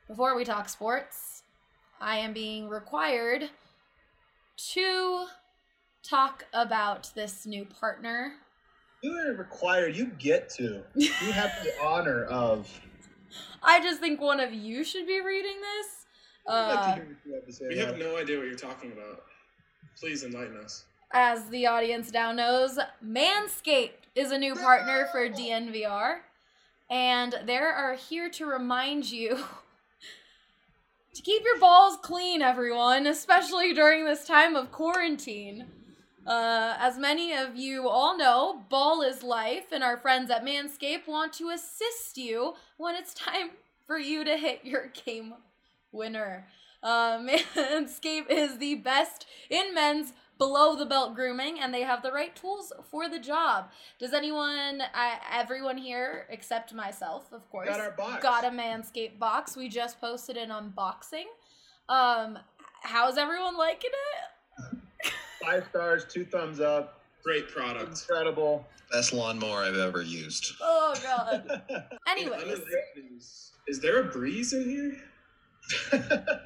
Before we talk sports, I am being required to talk about this new partner. You aren't required. You get to. You have the honor of. I just think one of you should be reading this. I'd like to hear what you have to say. We have no idea what you're talking about. Please enlighten us. As the audience now knows, Manscaped is a new partner for DNVR. And they are here to remind you to keep your balls clean, everyone, especially during this time of quarantine. As many of you all know, ball is life, and our friends at Manscaped want to assist you when it's time for you to hit your game winner. Manscaped is the best in men's below-the-belt grooming, and they have the right tools for the job. Does everyone here, except myself, of course, got our box. Got a Manscaped box? We just posted an unboxing. How's everyone liking it? 5 stars, 2 thumbs up. Great product. Incredible. Best lawnmower I've ever used. Oh, God. Anyways. Is there a breeze in here?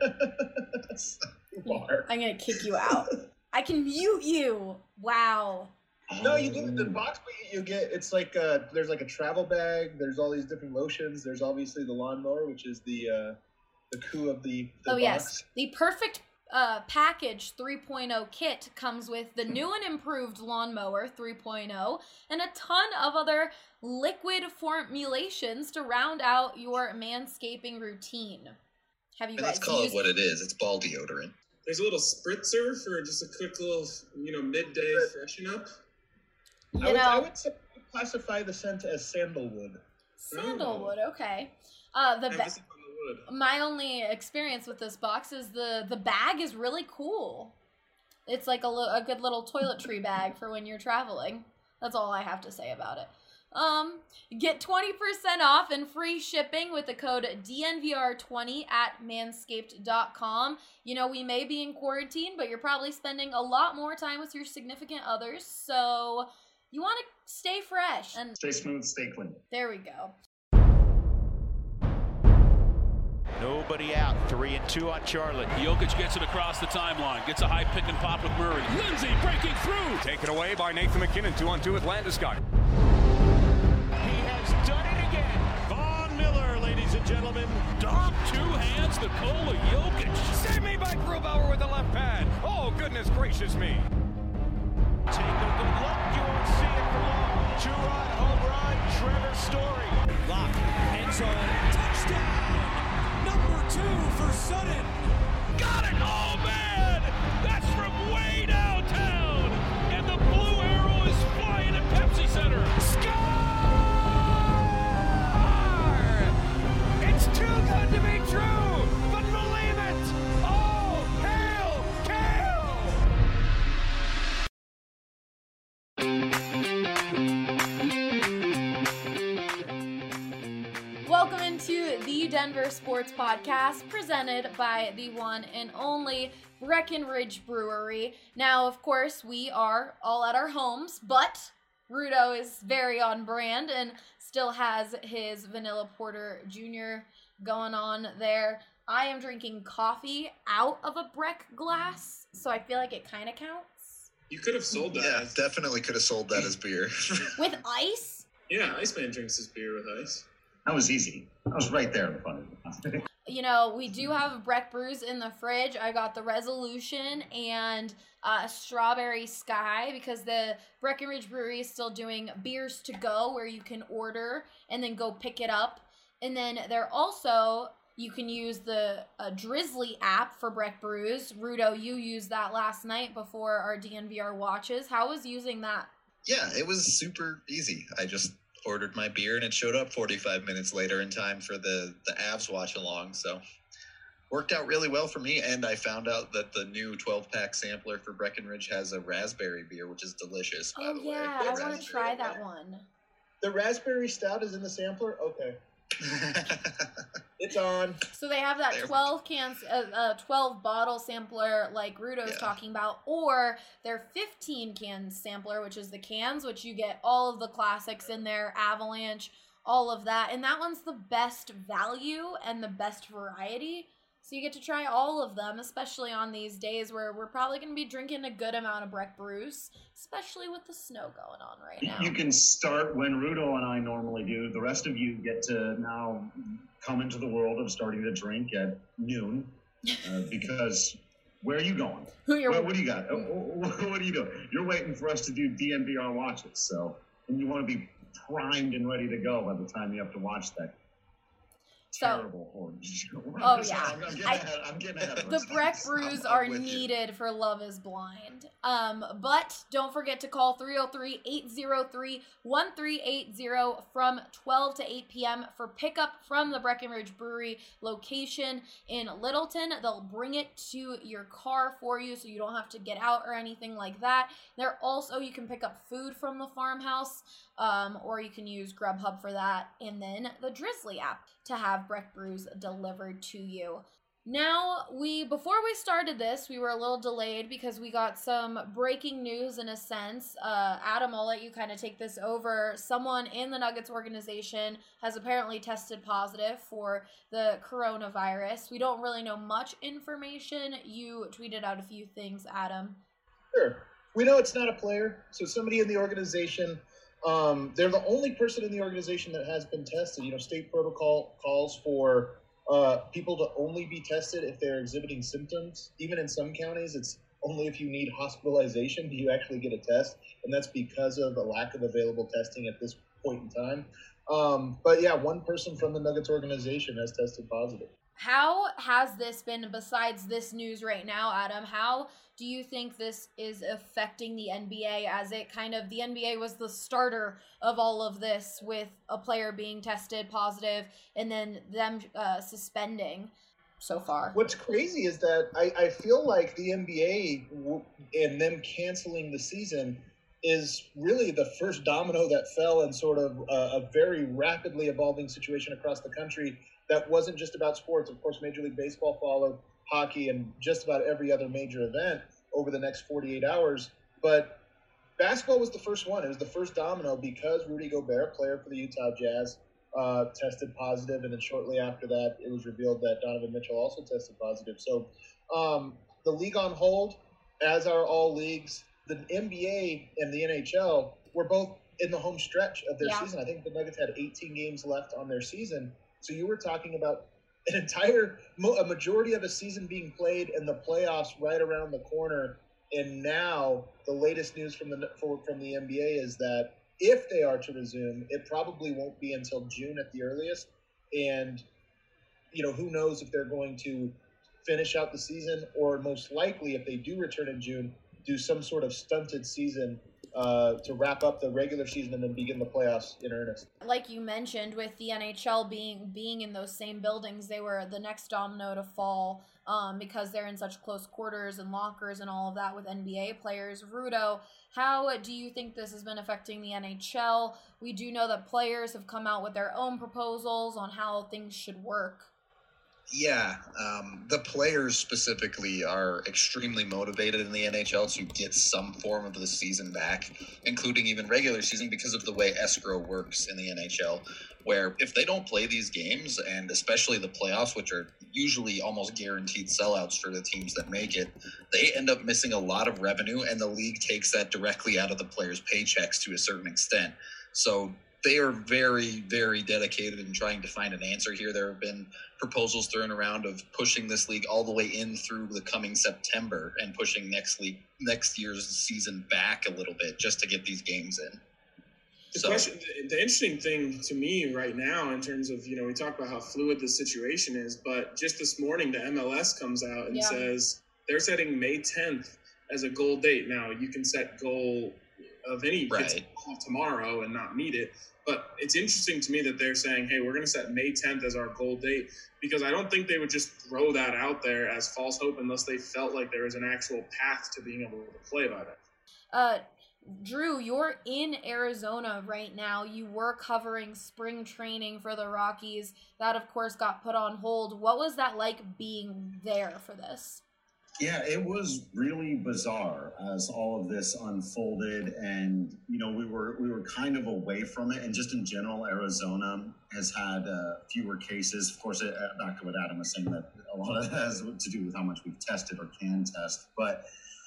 I'm going to kick you out. I can mute you. Wow. No, you do the box. You get it's like there's like a travel bag. There's all these different lotions. There's obviously the lawnmower, which is the coup of the box. Yes, the perfect package 3.0 kit comes with the new and improved lawnmower 3.0 and a ton of other liquid formulations to round out your manscaping routine. Have you guys Let's call it what it is. It's ball deodorant. There's a little spritzer for just a quick little, midday freshen up. I would classify the scent as sandalwood. Sandalwood, okay. My only experience with this box is the bag is really cool. It's like a good little toiletry bag for when you're traveling. That's all I have to say about it. Get 20% off and free shipping with the code DNVR20 at manscaped.com. We may be in quarantine, but you're probably spending a lot more time with your significant others, so you want to stay fresh and stay smooth, stay clean. There we go. Nobody out. 3-2 on Charlotte. Jokic gets it across the timeline. Gets a high pick and pop with Murray. Lindsay breaking through. Taken away by Nathan McKinnon. 2-on-2 with Landeskog. He has done it again. Von Miller, ladies and gentlemen. Dom, 2 hands, Nikola Jokic. Save me by Grubauer with the left pad. Oh, goodness gracious me. Take a good look. You won't see it for long. 2-run home run. Trevor Story. Lock. End zone. Touchdown. Number 2 for Sutton. Got it! Oh, man! That's from way downtown! And the blue arrow is flying at Pepsi Center. Score! It's too good to be true, but believe it! Oh, hail, Welcome into the Denver Sports Podcast, presented by the one and only Breckenridge Brewery. Now, of course, we are all at our homes, but Rudo is very on brand and still has his Vanilla Porter Jr. going on there. I am drinking coffee out of a Breck glass, so I feel like it kind of counts. You could have sold that. Yeah, definitely could have sold that as beer. With ice? Yeah, Iceman drinks his beer with ice. That was easy. I was right there in front of you. We do have Breck brews in the fridge. I got the Resolution and Strawberry Sky because the Breckenridge Brewery is still doing beers to go where you can order and then go pick it up. And then you can use the Drizzly app for Breck brews. Rudo, you used that last night before our DNVR watches. How was using that? Yeah, it was super easy. I just ordered my beer and it showed up 45 minutes later in time for the Avs watch along. So worked out really well for me. And I found out that the new 12-pack sampler for Breckenridge has a raspberry beer, which is delicious, by the way. I want to try that one. The raspberry stout is in the sampler? Okay. It's on. So they have that 12 bottle sampler like Rudo's talking about, or their 15 can sampler, which is the cans, which you get all of the classics in there, Avalanche, all of that. And that one's the best value and the best variety. So you get to try all of them, especially on these days where we're probably going to be drinking a good amount of Breck Brews, especially with the snow going on right now. You can start when Rudo and I normally do. The rest of you get to now come into the world of starting to drink at noon because where are you going? What do you got? What are you doing? You're waiting for us to do DNVR watches, so and you want to be primed and ready to go by the time you have to watch that. Terrible orange. Oh yeah, I'm getting ahead of the Breck Brews are needed for Love Is Blind. But don't forget to call 303-803-1380 from 12 to 8 p.m. for pickup from the Breckenridge Brewery location in Littleton. They'll bring it to your car for you, so you don't have to get out or anything like that. There also, you can pick up food from the farmhouse, or you can use Grubhub for that, and then the Drizzly app to have Breck Brews delivered to you. Now, before we started this, we were a little delayed because we got some breaking news in a sense. Adam, I'll let you kind of take this over. Someone in the Nuggets organization has apparently tested positive for the coronavirus. We don't really know much information. You tweeted out a few things, Adam. Sure. We know it's not a player, so somebody in the organization. They're the only person in the organization that has been tested. State protocol calls for people to only be tested if they're exhibiting symptoms. Even in some counties, it's only if you need hospitalization do you actually get a test, and that's because of the lack of available testing at this point in time. But yeah, one person from the Nuggets organization has tested positive. How has this been, besides this news right now, Adam? How do you think this is affecting the NBA as the NBA was the starter of all of this with a player being tested positive and then them suspending so far? What's crazy is that I feel like the NBA and them canceling the season is really the first domino that fell in sort of a very rapidly evolving situation across the country that wasn't just about sports. Of course, Major League Baseball followed, hockey, and just about every other major event over the next 48 hours. But basketball was the first one. It was the first domino because Rudy Gobert, player for the Utah Jazz, tested positive, and then shortly after that, it was revealed that Donovan Mitchell also tested positive. So the league on hold, as are all leagues. The NBA and the NHL were both in the home stretch of their season. I think the Nuggets had 18 games left on their season. So you were talking about a majority of a season being played and the playoffs right around the corner. And now the latest news from the NBA is that if they are to resume, it probably won't be until June at the earliest. And, who knows if they're going to finish out the season, or most likely if they do return in June, do some sort of stunted season to wrap up the regular season and then begin the playoffs in earnest. Like you mentioned, with the NHL being in those same buildings, they were the next domino to fall because they're in such close quarters and lockers and all of that with NBA players. Rudo, how do you think this has been affecting the NHL? We do know that players have come out with their own proposals on how things should work. Yeah, the players specifically are extremely motivated in the NHL to get some form of the season back, including even regular season, because of the way escrow works in the NHL, where if they don't play these games, and especially the playoffs, which are usually almost guaranteed sellouts for the teams that make it, they end up missing a lot of revenue, and the league takes that directly out of the players' paychecks to a certain extent. So they are very, very dedicated in trying to find an answer here. There have been proposals thrown around of pushing this league all the way in through the coming September and pushing next year's season back a little bit just to get these games in. The interesting thing to me right now in terms of, we talk about how fluid the situation is, but just this morning the MLS comes out and says they're setting May 10th as a goal date. Now, you can set goal of any tomorrow and not meet it. But it's interesting to me that they're saying, hey, we're going to set May 10th as our goal date, because I don't think they would just throw that out there as false hope unless they felt like there was an actual path to being able to play by that. Drew, you're in Arizona right now. You were covering spring training for the Rockies. That, of course, got put on hold. What was that like being there for this? Yeah, it was really bizarre as all of this unfolded, and we were kind of away from it. And just in general, Arizona has had fewer cases. Of course, back to what Adam was saying, that a lot of that has to do with how much we've tested or can test. But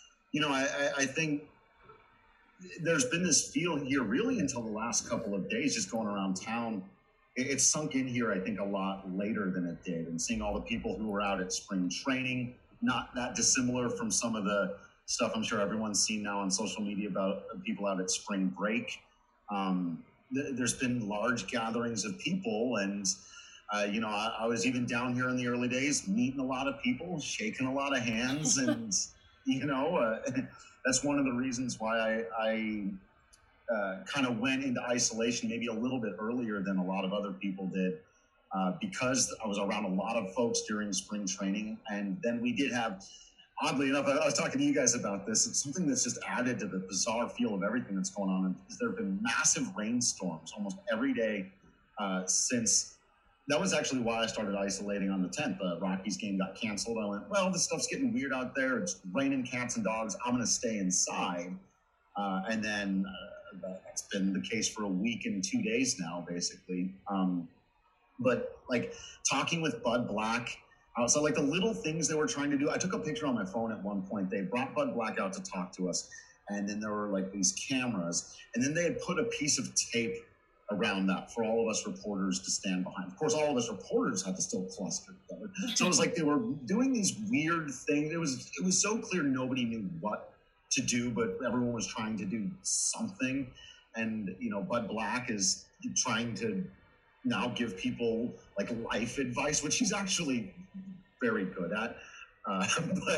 I think there's been this feel here really until the last couple of days, just going around town. It's sunk in here, I think, a lot later than it did, and seeing all the people who were out at spring training. Not that dissimilar from some of the stuff I'm sure everyone's seen now on social media about people out at spring break. There's been large gatherings of people, and I was even down here in the early days, meeting a lot of people, shaking a lot of hands, and that's one of the reasons why I kind of went into isolation maybe a little bit earlier than a lot of other people did. Because I was around a lot of folks during spring training. And then we did have, oddly enough, I was talking to you guys about this. It's something that's just added to the bizarre feel of everything that's going on. Is there have been massive rainstorms almost every day since. That was actually why I started isolating on the 10th. The Rockies game got canceled. I went, well, this stuff's getting weird out there. It's raining cats and dogs. I'm going to stay inside. And then that's been the case for a week and 2 days now, basically. But like talking with Bud Black, so like the little things they were trying to do. I took a picture on my phone at one point. They brought Bud Black out to talk to us. And then there were like these cameras. And then they had put a piece of tape around that for all of us reporters to stand behind. Of course, all of us reporters had to still cluster together. So it was like they were doing these weird things. It was so clear nobody knew what to do, but everyone was trying to do something. And, Bud Black is trying to now give people like life advice, which he's actually very good at. But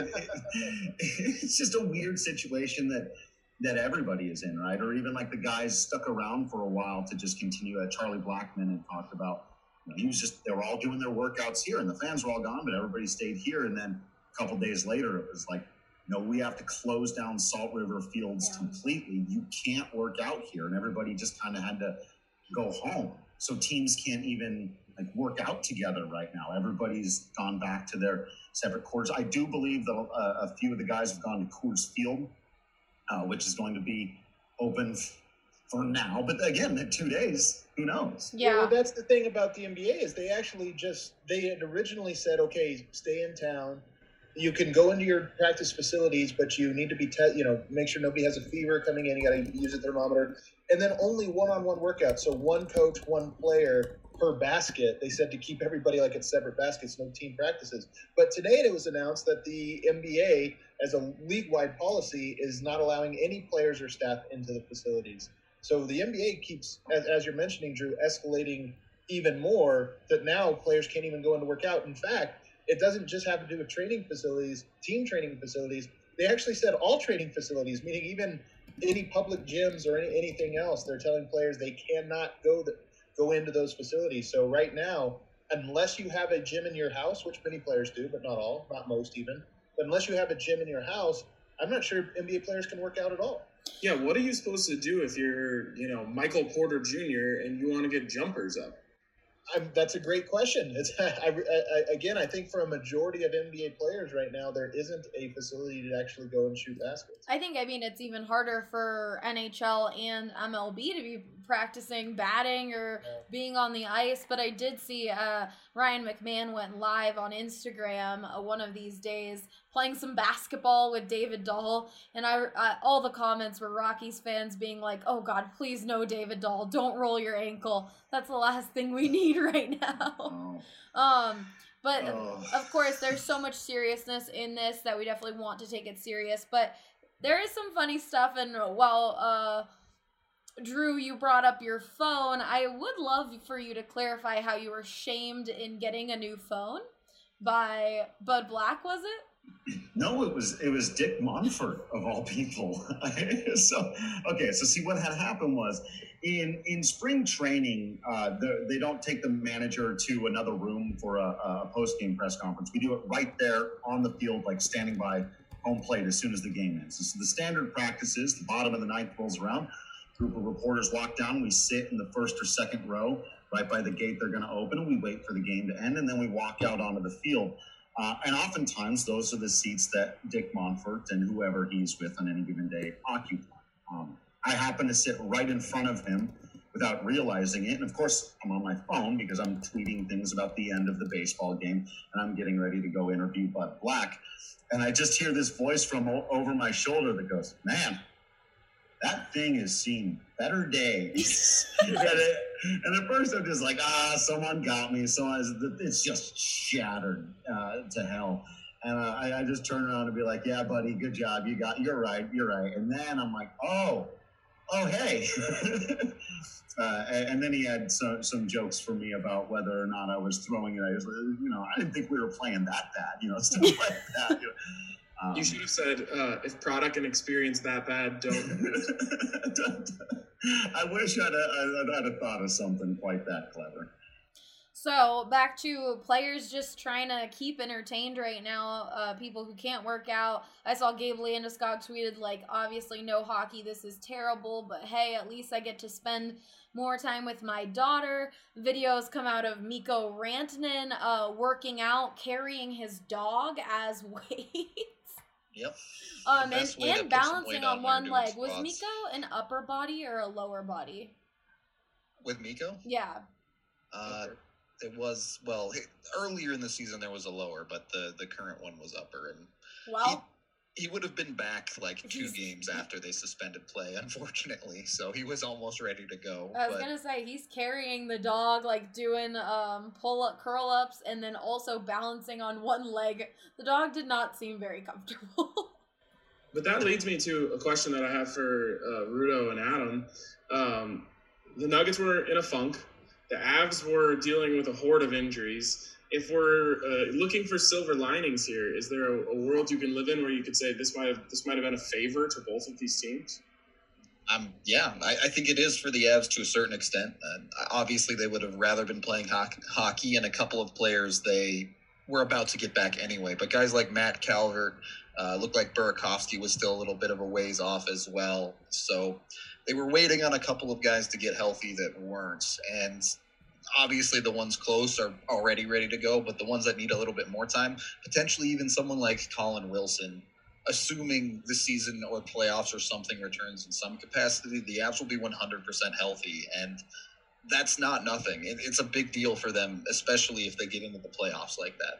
it's just a weird situation that everybody is in, right? Or even like the guys stuck around for a while to just continue. Charlie Blackmon had talked about, they were all doing their workouts here and the fans were all gone, but everybody stayed here. And then a couple days later, it was like, we have to close down Salt River Fields completely. You can't work out here. And everybody just kind of had to go home. So teams can't even work out together right now. Everybody's gone back to their separate quarters. I do believe that a few of the guys have gone to Coors Field, which is going to be open for now. But again, in 2 days, who knows? Yeah, well, that's the thing about the NBA is they had originally said, okay, stay in town. You can go into your practice facilities, but you need to be, make sure nobody has a fever coming in. You got to use a thermometer. And then only one-on-one workouts. So one coach, one player per basket. They said to keep everybody at separate baskets, no team practices. But today it was announced that the NBA, as a league-wide policy, is not allowing any players or staff into the facilities. So the NBA keeps, as you're mentioning, Drew, escalating even more, that now players can't even go in to work out. In fact, it doesn't just have to do with training facilities, team training facilities. They actually said all training facilities, meaning even any public gyms or anything else. They're telling players they cannot go into those facilities. So right now, unless you have a gym in your house, which many players do, but not all, not most even, but unless you have a gym in your house, I'm not sure NBA players can work out at all. Yeah, what are you supposed to do if you're, Michael Porter Jr. and you want to get jumpers up? That's a great question. I think for a majority of NBA players right now, there isn't a facility to actually go and shoot baskets. It's even harder for NHL and MLB to be practicing batting or being on the ice. But I did see Ryan McMahon went live on Instagram one of these days playing some basketball with David Dahl. And all the comments were Rockies fans being like, oh, God, please no, David Dahl. Don't roll your ankle. That's the last thing we need right now. But of course, there's so much seriousness in this that we definitely want to take it serious. But there is some funny stuff. And while Drew, you brought up your phone, I would love for you to clarify how you were shamed in getting a new phone by Bud Black, was it? No, it was Dick Monfort of all people. So see what had happened was in spring training, they don't take the manager to another room for a post-game press conference. We do it right there on the field, standing by home plate as soon as the game ends. So the standard practice is the bottom of the ninth rolls around. Group of reporters walk down. We sit in the first or second row right by the gate they're going to open, and we wait for the game to end, and then we walk out onto the field. And oftentimes, those are the seats that Dick Monfort and whoever he's with on any given day occupy. I happen to sit right in front of him without realizing it. And of course, I'm on my phone because I'm tweeting things about the end of the baseball game, and I'm getting ready to go interview Bud Black. And I just hear this voice from over my shoulder that goes, "Man, that thing has seen better days." and at first I'm just like, someone got me. So it's just shattered to hell. And I just turn around and be like, "Yeah, buddy, good job. You're right. And then I'm like, oh, hey. And then he had some jokes for me about whether or not I was throwing it. I was, I didn't think we were playing that bad, stuff like that. You should have said, if product and experience that bad, don't. I wish I'd have thought of something quite that clever. So, back to players just trying to keep entertained right now, people who can't work out. I saw Gabe Landeskog tweeted, obviously no hockey, this is terrible, but hey, at least I get to spend more time with my daughter. Videos come out of Mikko Rantanen working out, carrying his dog as weights. Yep. And balancing on one leg. Was Mikko an upper body or a lower body? With Mikko? Yeah. It was, earlier in the season there was a lower, but the current one was upper. And he would have been back 2 games after they suspended play, unfortunately. So he was almost ready to go. I was going to say, he's carrying the dog, doing pull-up, curl-ups, and then also balancing on one leg. The dog did not seem very comfortable. But that leads me to a question that I have for Rudo and Adam. The Nuggets were in a funk. The Avs were dealing with a horde of injuries. If we're looking for silver linings here, is there a world you can live in where you could say this might have been a favor to both of these teams? Yeah, I think it is for the Avs to a certain extent. Obviously, they would have rather been playing hockey, and a couple of players they were about to get back anyway. But guys like Matt Calvert, looked like Burakovsky was still a little bit of a ways off as well. So they were waiting on a couple of guys to get healthy that weren't. And obviously the ones close are already ready to go, but the ones that need a little bit more time, potentially even someone like Colin Wilson, assuming the season or playoffs or something returns in some capacity, the Avs will be 100% healthy. And that's not nothing. It's a big deal for them, especially if they get into the playoffs like that.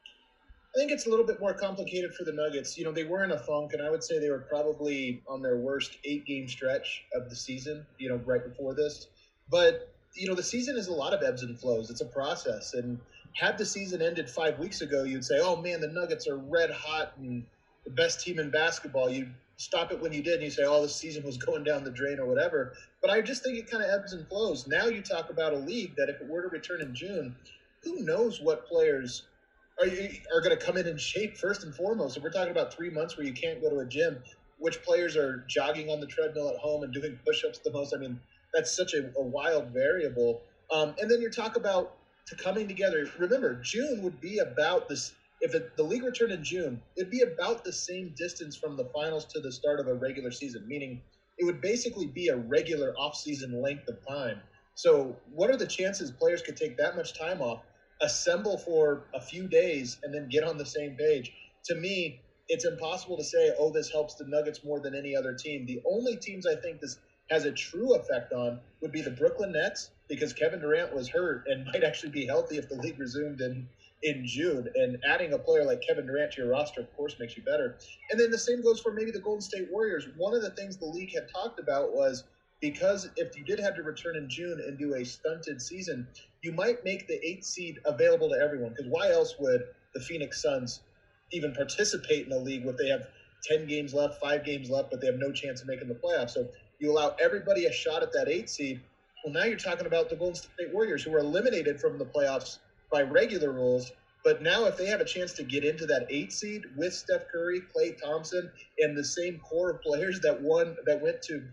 I think it's a little bit more complicated for the Nuggets. They were in a funk, and I would say they were probably on their worst 8-game stretch of the season, right before this. But, the season is a lot of ebbs and flows. It's a process. And had the season ended 5 weeks ago, you'd say, oh, man, the Nuggets are red hot and the best team in basketball. You'd stop it when you did, and you say, oh, the season was going down the drain or whatever. But I just think it kind of ebbs and flows. Now you talk about a league that if it were to return in June, who knows what players are going to come in shape first and foremost. If we're talking about 3 months where you can't go to a gym, which players are jogging on the treadmill at home and doing push-ups the most? I mean, that's such a wild variable. And then you talk about coming together. Remember, June would be about this. If the league returned in June, it'd be about the same distance from the finals to the start of a regular season, meaning it would basically be a regular off-season length of time. So what are the chances players could take that much time off, assemble for a few days, and then get on the same page? To me, it's impossible to say, oh, this helps the Nuggets more than any other team. The only teams I think this has a true effect on would be the Brooklyn Nets, because Kevin Durant was hurt and might actually be healthy if the league resumed in June. And adding a player like Kevin Durant to your roster, of course, makes you better. And then the same goes for maybe the Golden State Warriors. One of the things the league had talked about was, because if you did have to return in June and do a stunted season, you might make the 8th seed available to everyone. Because why else would the Phoenix Suns even participate in a league if they have 10 games left, 5 games left, but they have no chance of making the playoffs? So you allow everybody a shot at that 8th seed. Well, now you're talking about the Golden State Warriors, who were eliminated from the playoffs by regular rules. But now if they have a chance to get into that 8th seed with Steph Curry, Klay Thompson, and the same core of players that went to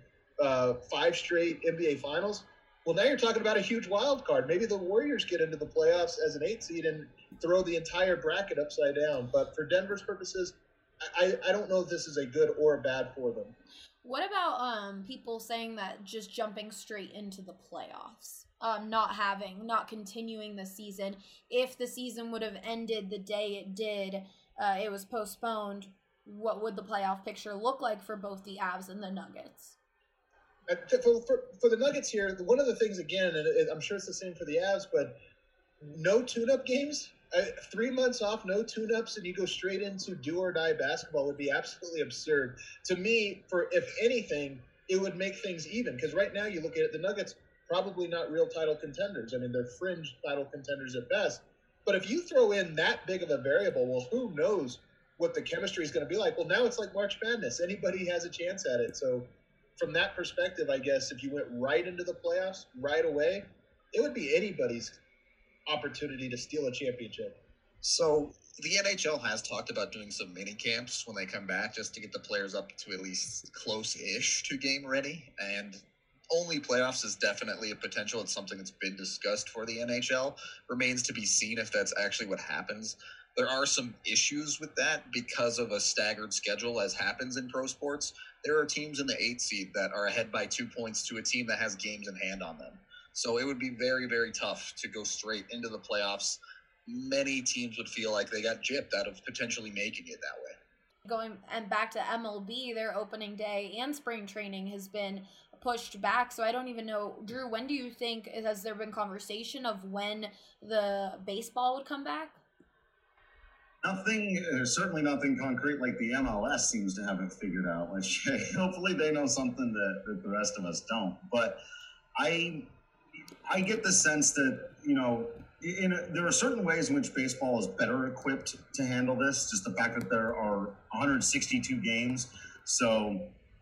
5 straight NBA finals, well, now you're talking about a huge wild card. Maybe the Warriors get into the playoffs as an 8th seed and throw the entire bracket upside down. But for Denver's purposes, I don't know if this is a good or a bad for them. What about people saying that just jumping straight into the playoffs? not continuing the season. If the season would have ended the day it did, it was postponed, what would the playoff picture look like for both the Avs and the Nuggets? For the Nuggets here, one of the things, again, and I'm sure it's the same for the Avs, but no tune-up games. 3 months off, no tune-ups, and you go straight into do-or-die basketball would be absolutely absurd. To me, if anything, it would make things even. Because right now you look at it, the Nuggets, probably not real title contenders. I mean, they're fringe title contenders at best. But if you throw in that big of a variable, well, who knows what the chemistry is going to be like? Well, now it's like March Madness. Anybody has a chance at it. So from that perspective, I guess if you went right into the playoffs right away, it would be anybody's opportunity to steal a championship. So the NHL has talked about doing some mini camps when they come back, just to get the players up to at least close-ish to game ready. And only playoffs is definitely a potential. It's something that's been discussed for the NHL. Remains to be seen if that's actually what happens. There are some issues with that because of a staggered schedule, as happens in pro sports. There are teams in the 8th seed that are ahead by 2 points to a team that has games in hand on them. So it would be very, very tough to go straight into the playoffs. Many teams would feel like they got gypped out of potentially making it that way. Going and back to MLB, their opening day and spring training has been pushed back. So I don't even know, Drew, when do you think, has there been conversation of when the baseball would come back? Certainly nothing concrete like the MLS seems to have it figured out. Like, hopefully they know something that the rest of us don't. But I get the sense that, there are certain ways in which baseball is better equipped to handle this. Just the fact that there are 162 games. So,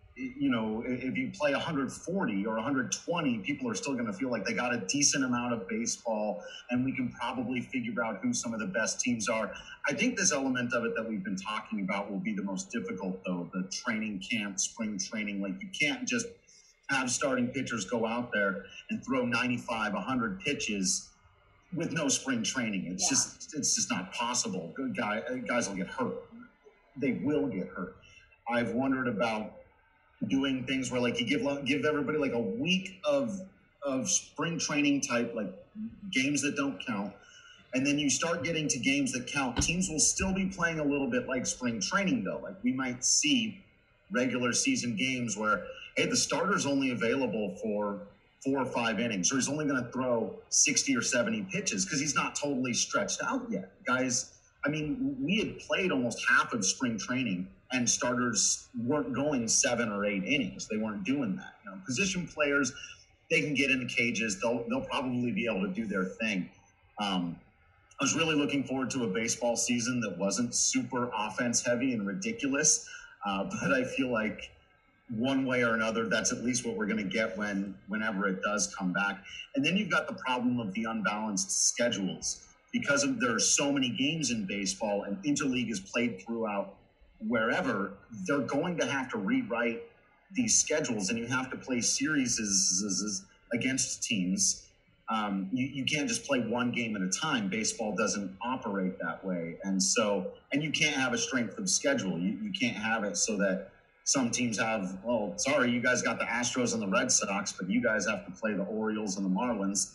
if you play 140 or 120, people are still going to feel like they got a decent amount of baseball, and we can probably figure out who some of the best teams are. I think this element of it that we've been talking about will be the most difficult, though, the training camp, spring training. Like, you can't just have starting pitchers go out there and throw 95, 100 pitches with no spring training. It's just not possible. Guys will get hurt. They will get hurt. I've wondered about doing things where, like, you give everybody like a week of spring training type, like, games that don't count, and then you start getting to games that count. Teams will still be playing a little bit like spring training, though. Like, we might see regular season games where, hey, the starter's only available for 4 or 5 innings, or he's only going to throw 60 or 70 pitches because he's not totally stretched out yet. Guys, I mean, we had played almost half of spring training, and starters weren't going 7 or 8 innings. They weren't doing that. Position players, they can get in the cages. They'll probably be able to do their thing. I was really looking forward to a baseball season that wasn't super offense heavy and ridiculous, but I feel like one way or another, that's at least what we're going to get whenever it does come back. And then you've got the problem of the unbalanced schedules. Because there are so many games in baseball and interleague is played throughout wherever, they're going to have to rewrite these schedules, and you have to play series against teams. You can't just play one game at a time. Baseball doesn't operate that way. And you can't have a strength of schedule. You can't have it so that some teams have, sorry, you guys got the Astros and the Red Sox, but you guys have to play the Orioles and the Marlins.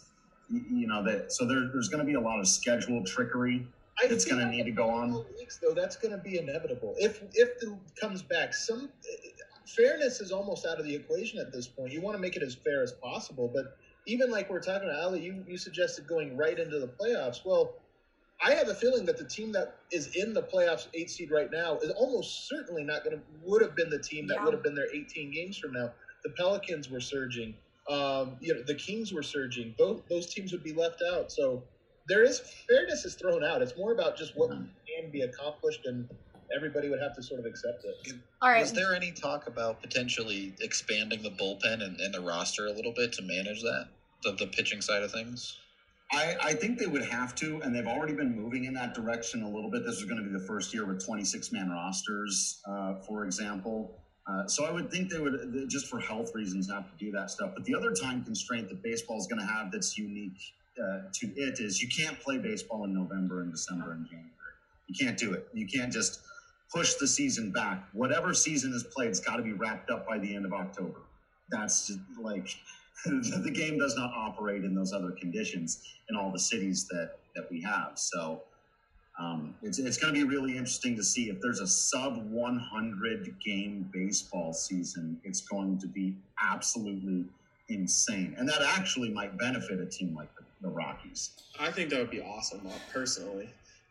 So there's going to be a lot of schedule trickery that's going to need to go on. Weeks, though, that's going to be inevitable. If it comes back, some fairness is almost out of the equation at this point. You want to make it as fair as possible, but even like we're talking about, Ali, you suggested going right into the playoffs. Well, I have a feeling that the team that is in the playoffs 8 seed right now is almost certainly would have been the team that would have been there 18 games from now. The Pelicans were surging. The Kings were surging. Those teams would be left out. So fairness is thrown out. It's more about just what can be accomplished, and everybody would have to sort of accept it. All right. Was there any talk about potentially expanding the bullpen and the roster a little bit to manage that, the pitching side of things? I think they would have to, and they've already been moving in that direction a little bit. This is going to be the first year with 26-man rosters, for example. So I would think they would, just for health reasons, have to do that stuff. But the other time constraint that baseball is going to have that's unique to it is you can't play baseball in November and December and January. You can't do it. You can't just push the season back. Whatever season is played, it's got to be wrapped up by the end of October. That's just like, the game does not operate in those other conditions in all the cities that we have. So it's going to be really interesting to see if there's a sub 100 game baseball season. It's going to be absolutely insane, and that actually might benefit a team like the Rockies. I think that would be awesome, personally.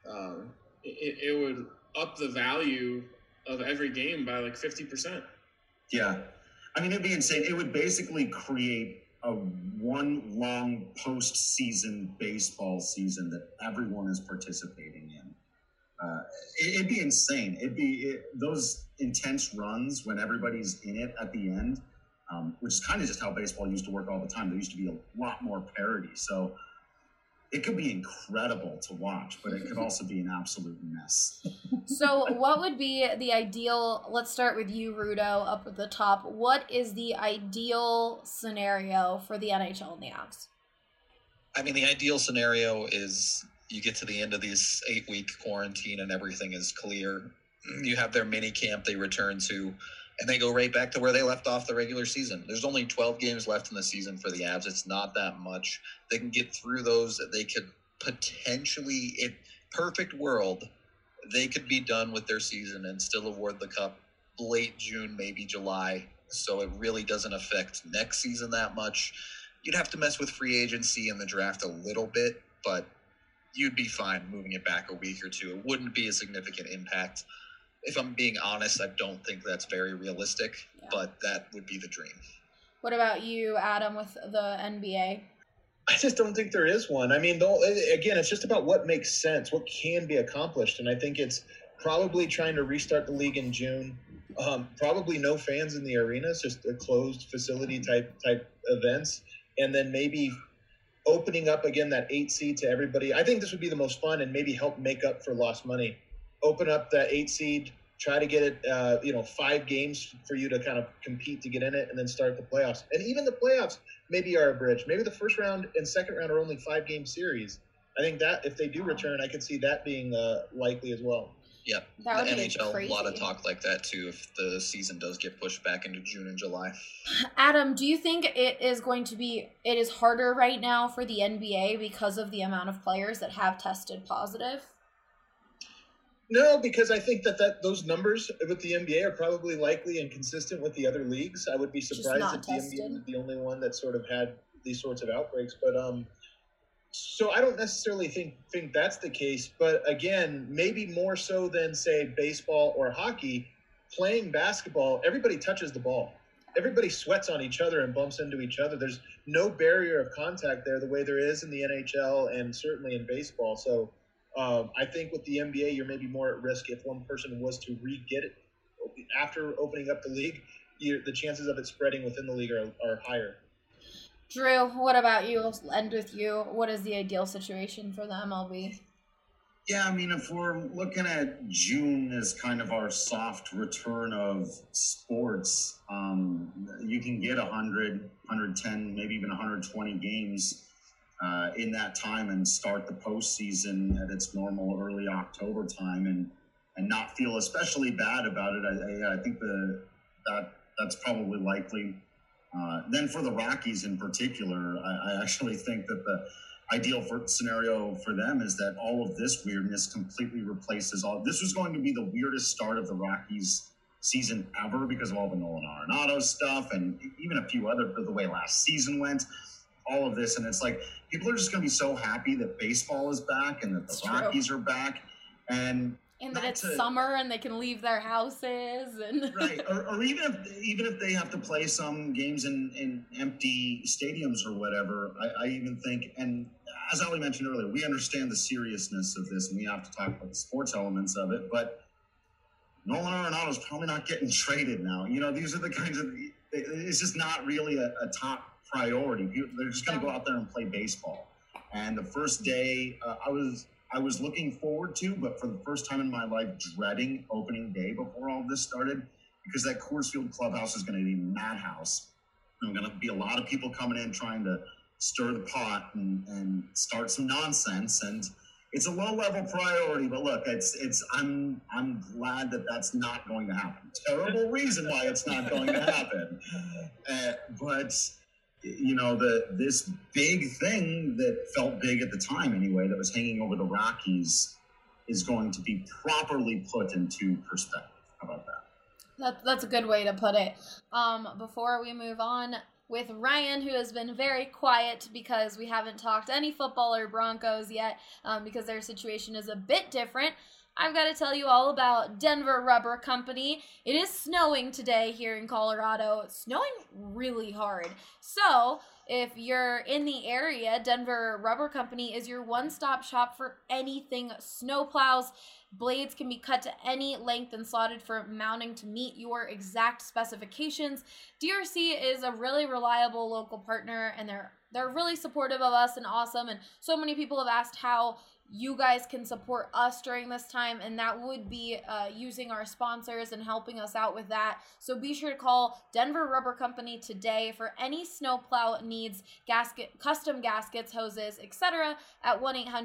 It would up the value of every game by like 50%. Yeah. I mean, it'd be insane. It would basically create a one long postseason baseball season that everyone is participating in. It'd be insane. Those intense runs when everybody's in it at the end, which is kind of just how baseball used to work all the time. There used to be a lot more parity. So it could be incredible to watch, but it could also be an absolute mess. So what would be the ideal, let's start with you, Rudo, up at the top. What is the ideal scenario for the NHL and the Avs? I mean, the ideal scenario is you get to the end of this 8-week quarantine and everything is clear. You have their mini camp they return to, and they go right back to where they left off the regular season. There's only 12 games left in the season for the Avs. It's not that much. They can get through those. They could potentially, in perfect world, they could be done with their season and still award the cup late June, maybe July. So it really doesn't affect next season that much. You'd have to mess with free agency and the draft a little bit, but you'd be fine moving it back a week or two. It wouldn't be a significant impact. If I'm being honest, I don't think that's very realistic, but that would be the dream. What about you, Adam, with the NBA? I just don't think there is one. I mean, again, it's just about what makes sense, what can be accomplished. And I think it's probably trying to restart the league in June. Probably no fans in the arenas, just a closed facility type events. And then maybe opening up again that 8 seed to everybody. I think this would be the most fun and maybe help make up for lost money. Open up that 8 seed, try to get it, 5 games for you to kind of compete to get in it, and then start the playoffs. And even the playoffs maybe are a bridge. Maybe the first round and second round are only 5-game series. I think that if they do return, I could see that being likely as well. Yeah, the NHL, a lot of talk like that too if the season does get pushed back into June and July. Adam, do you think it is harder right now for the NBA because of the amount of players that have tested positive? No, because I think that those numbers with the NBA are probably likely and consistent with the other leagues. I would be surprised if the NBA was the only one that sort of had these sorts of outbreaks. But so I don't necessarily think that's the case. But again, maybe more so than, say, baseball or hockey, playing basketball, everybody touches the ball. Everybody sweats on each other and bumps into each other. There's no barrier of contact there the way there is in the NHL and certainly in baseball. So I think with the NBA, you're maybe more at risk if one person was to re-get it after opening up the league. The chances of it spreading within the league are higher. Drew, what about you? Let's end with you. What is the ideal situation for the MLB? Yeah, I mean, if we're looking at June as kind of our soft return of sports, you can get 100, 110, maybe even 120 games in that time and start the postseason at its normal early October time and not feel especially bad about it. I think that's probably likely. Then for the Rockies in particular, I actually think that the ideal scenario for them is that all of this weirdness completely replaces all. This was going to be the weirdest start of the Rockies season ever because of all the Nolan Arenado stuff and even a few other, the way last season went, all of this. And it's like, people are just going to be so happy that baseball is back and that the Rockies are back. And that it's summer and they can leave their houses and right, or even if they have to play some games in empty stadiums or whatever, I even think, and as Ali mentioned earlier, we understand the seriousness of this and we have to talk about the sports elements of it, but Nolan Arenado's probably not getting traded now. These are the kinds of, it's just not really a top priority. They're just going to go out there and play baseball. And the first day, I was looking forward to, but for the first time in my life, dreading opening day before all this started, because that Coors Field clubhouse is going to be a madhouse. There's going to be a lot of people coming in trying to stir the pot and start some nonsense. And it's a low-level priority, but look, I'm glad that that's not going to happen. Terrible reason why it's not going to happen. But this big thing that felt big at the time anyway, that was hanging over the Rockies, is going to be properly put into perspective. How about that? That's a good way to put it. Before we move on with Ryan, who has been very quiet because we haven't talked any football or Broncos yet, because their situation is a bit different, I've got to tell you all about Denver Rubber Company. It is snowing today here in Colorado. It's snowing really hard. So if you're in the area, Denver Rubber Company is your one-stop shop for anything snowplows. Blades can be cut to any length and slotted for mounting to meet your exact specifications. DRC is a really reliable local partner, and they're really supportive of us and awesome. And so many people have asked how you guys can support us during this time, and that would be using our sponsors and helping us out with that. So be sure to call Denver Rubber Company today for any snowplow needs, custom gaskets, hoses, etc. at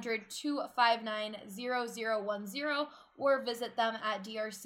1-800-259-0010, or visit them at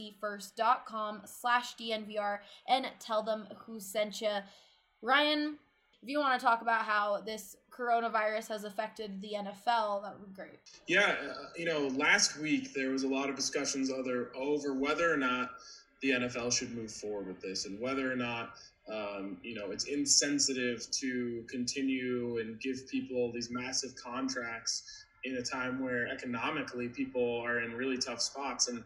drcfirst.com/DNVR and tell them who sent you. Ryan, if you want to talk about how this coronavirus has affected the NFL, that would be great. Yeah, last week there was a lot of discussions over whether or not the NFL should move forward with this, and whether or not it's insensitive to continue and give people these massive contracts in a time where economically people are in really tough spots. And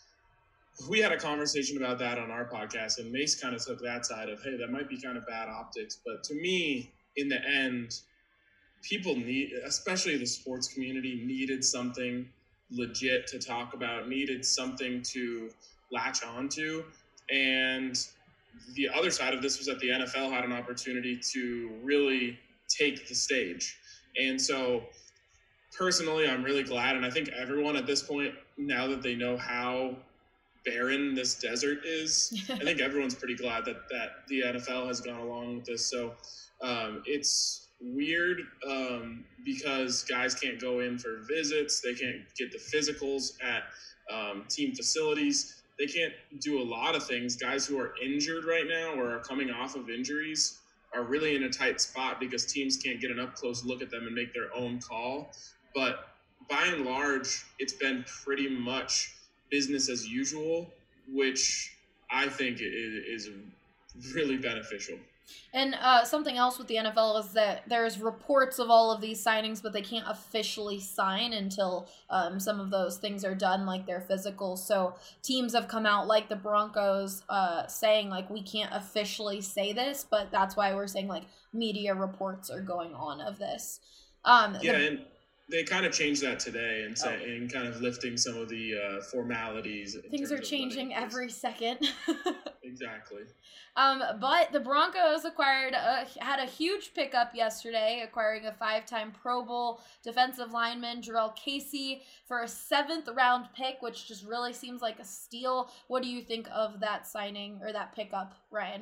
we had a conversation about that on our podcast, and Mace kind of took that side of, hey, that might be kind of bad optics. But to me, in the end, people especially the sports community, needed something legit to talk about, needed something to latch onto. And the other side of this was that the NFL had an opportunity to really take the stage. And so personally, I'm really glad. And I think everyone at this point, now that they know how barren this desert is, I think everyone's pretty glad that the NFL has gone along with this. So it's weird because guys can't go in for visits. They can't get the physicals at team facilities. They can't do a lot of things. Guys who are injured right now or are coming off of injuries are really in a tight spot because teams can't get an up-close look at them and make their own call. But by and large, it's been pretty much business as usual, which I think is really beneficial. And something else with the NFL is that there's reports of all of these signings, but they can't officially sign until some of those things are done, like their physicals. So teams have come out, like the Broncos, saying, like, we can't officially say this, but that's why we're saying, like, media reports are going on of this. And they kind of changed that today and and kind of lifting some of the formalities. Things are changing every second. Exactly. But the Broncos had a huge pickup yesterday, acquiring a 5-time Pro Bowl defensive lineman, Jurrell Casey, for a 7th-round pick, which just really seems like a steal. What do you think of that signing or that pickup, Ryan?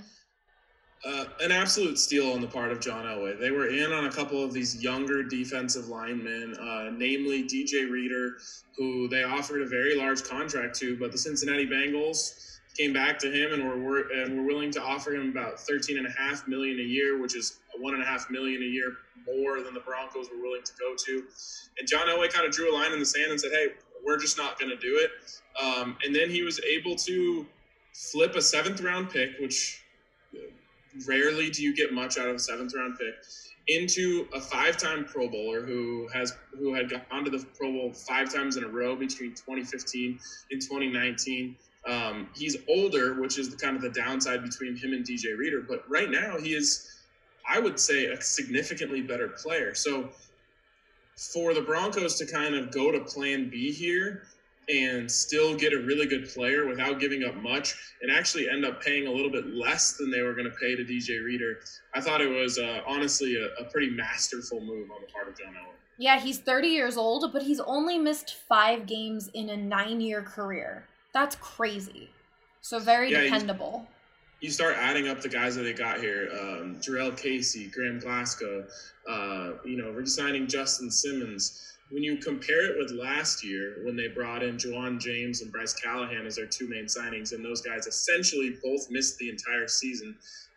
An absolute steal on the part of John Elway. They were in on a couple of these younger defensive linemen, namely DJ Reader, who they offered a very large contract to, but the Cincinnati Bengals came back to him and were willing to offer him about $13.5 million a year, which is $1.5 million a year more than the Broncos were willing to go to. And John Elway kind of drew a line in the sand and said, "Hey, we're just not going to do it." And then he was able to flip a 7th-round pick, which rarely do you get much out of a 7th-round pick, into a 5-time Pro Bowler who had gone to the Pro Bowl 5 times in a row between 2015 and 2019. He's older, which is kind of the downside between him and DJ Reader. But right now he is, I would say, a significantly better player. So for the Broncos to kind of go to plan B here and still get a really good player without giving up much and actually end up paying a little bit less than they were going to pay to DJ Reader, I thought it was honestly a pretty masterful move on the part of John Elway. Yeah, he's 30 years old, but he's only missed 5 games in a 9-year career. That's crazy. So very dependable. You start adding up the guys that they got here. Jurrell Casey, Graham Glasgow, re-signing Justin Simmons. When you compare it with last year when they brought in Juwan James and Bryce Callahan as their 2 main signings, and those guys essentially both missed the entire season,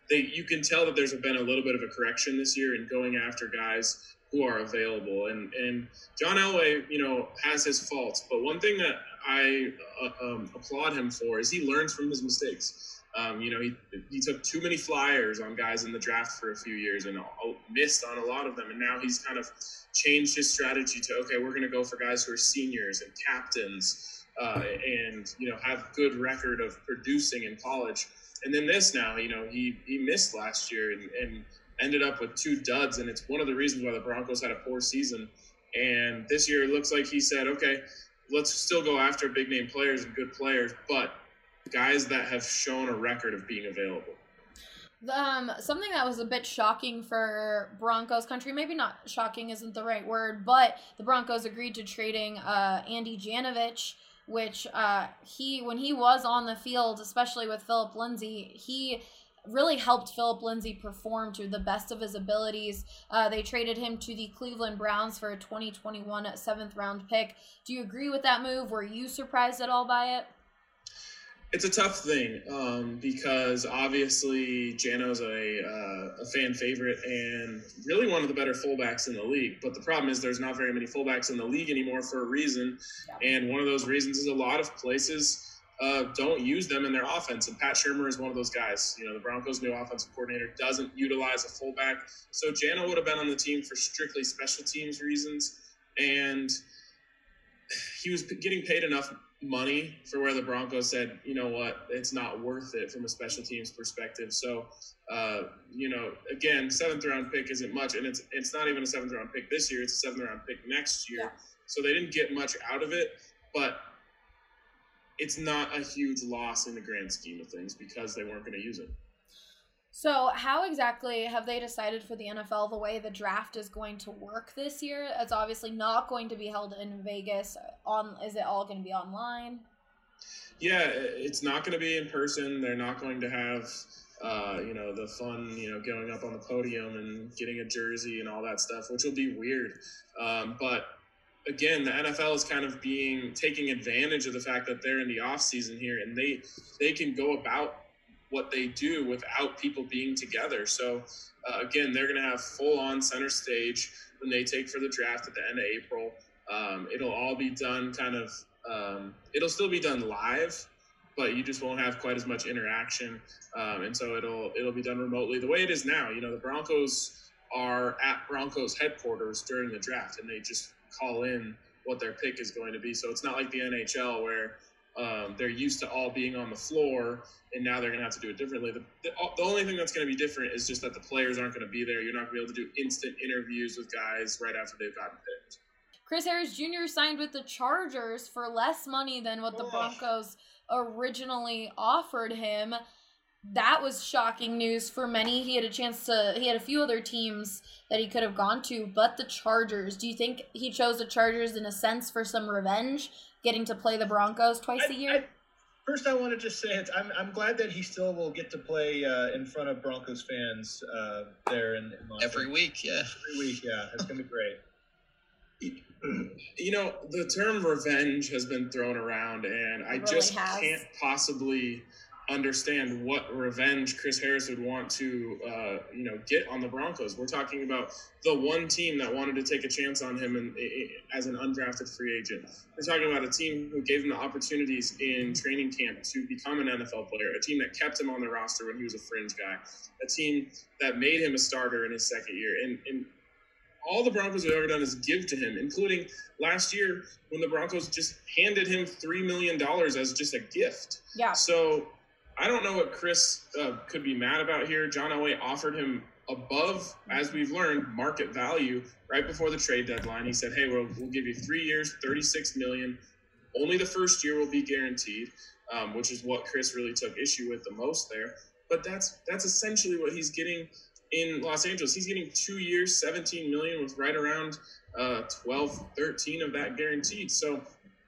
you can tell that there's been a little bit of a correction this year in going after guys who are available. And John Elway, has his faults, but one thing that I applaud him for is he learns from his mistakes. He took too many flyers on guys in the draft for a few years and missed on a lot of them. And now he's kind of changed his strategy to, okay, we're going to go for guys who are seniors and captains and have good record of producing in college. And then this now, he missed last year and ended up with 2 duds. And it's one of the reasons why the Broncos had a poor season. And this year it looks like he said, okay, let's still go after big name players and good players, but guys that have shown a record of being available. Something that was a bit shocking for Broncos country, maybe not shocking isn't the right word, but the Broncos agreed to trading Andy Janovich, which when he was on the field, especially with Phillip Lindsay, he really helped Phillip Lindsay perform to the best of his abilities. They traded him to the Cleveland Browns for a 2021 7th-round pick. Do you agree with that move? Were you surprised at all by it? It's a tough thing because obviously Jano's a fan favorite and really one of the better fullbacks in the league. But the problem is there's not very many fullbacks in the league anymore for a reason. Yeah. And one of those reasons is a lot of places don't use them in their offense. And Pat Shurmur is one of those guys. The Broncos' new offensive coordinator doesn't utilize a fullback. So Jano would have been on the team for strictly special teams reasons. And he was getting paid enough money for where the Broncos said, you know what, it's not worth it from a special teams perspective. So, again, 7th-round pick isn't much, and it's not even a 7th-round pick this year. It's a 7th-round pick next year. Yeah. So they didn't get much out of it, but it's not a huge loss in the grand scheme of things because they weren't going to use it. So how exactly have they decided for the NFL the way the draft is going to work this year? It's obviously not going to be held in Vegas. Is it all going to be online? Yeah, it's not going to be in person. They're not going to have, the fun, going up on the podium and getting a jersey and all that stuff, which will be weird. But again, the NFL is kind of taking advantage of the fact that they're in the off season here, and they can go about what they do without people being together. So again, they're going to have full on center stage when they take for the draft at the end of April. It'll all be done it'll still be done live, but you just won't have quite as much interaction. And so it'll be done remotely the way it is now. The Broncos are at Broncos headquarters during the draft, and they just call in what their pick is going to be. So it's not like the NHL where they're used to all being on the floor, and now they're going to have to do it differently. The only thing that's going to be different is just that the players aren't going to be there. You're not going to be able to do instant interviews with guys right after they've gotten picked. Chris Harris Jr. signed with the Chargers for less money than what the Broncos originally offered him. That was shocking news for many. He had a few other teams that he could have gone to, but the Chargers. Do you think he chose the Chargers in a sense for some revenge, getting to play the Broncos twice a year? First, I want to just say I'm glad that he still will get to play in front of Broncos fans there in Los Every week, yeah. Every week, yeah. It's going to be great. The term revenge has been thrown around, and I just can't possibly understand what revenge Chris Harris would want to, get on the Broncos. We're talking about the one team that wanted to take a chance on him as an undrafted free agent. We're talking about a team who gave him the opportunities in training camp to become an NFL player, a team that kept him on the roster when he was a fringe guy, a team that made him a starter in his second year. And all the Broncos have ever done is give to him, including last year when the Broncos just handed him $3 million as just a gift. Yeah. So I don't know what Chris could be mad about here. John Elway offered him above, as we've learned, market value right before the trade deadline. He said, hey, we'll give you 3 years, $36 million. Only the first year will be guaranteed, which is what Chris really took issue with the most there. But that's essentially what he's getting in Los Angeles. He's getting 2 years, $17 million with right around 12, 13 of that guaranteed. So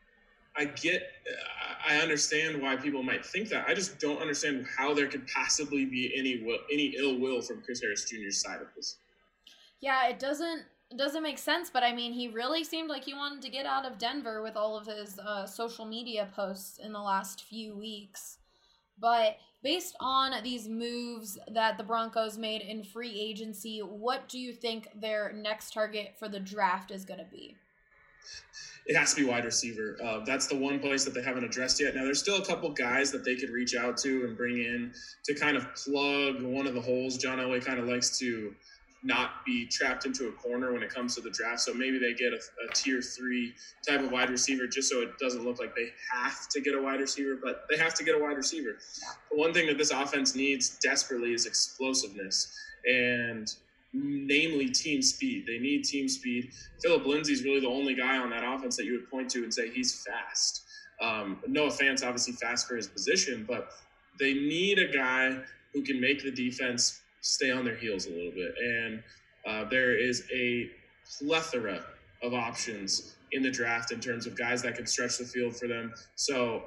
I understand why people might think that. I just don't understand how there could possibly be any ill will from Chris Harris Jr.'s side of this. Yeah, it doesn't make sense, but I mean, he really seemed like he wanted to get out of Denver with all of his social media posts in the last few weeks. But based on these moves that the Broncos made in free agency, what do you think their next target for the draft is going to be? It has to be wide receiver. That's the one place that they haven't addressed yet. Now, there's still a couple guys that they could reach out to and bring in to kind of plug one of the holes. John Elway kind of likes to not be trapped into a corner when it comes to the draft. So maybe they get a tier 3 type of wide receiver just so it doesn't look like they have to get a wide receiver, but they have to get a wide receiver. The one thing that this offense needs desperately is explosiveness, and namely team speed. They need team speed. Phillip Lindsay's really the only guy on that offense that you would point to and say he's fast. Noah Fant's obviously fast for his position, but they need a guy who can make the defense stay on their heels a little bit. And there is a plethora of options in the draft in terms of guys that can stretch the field for them. So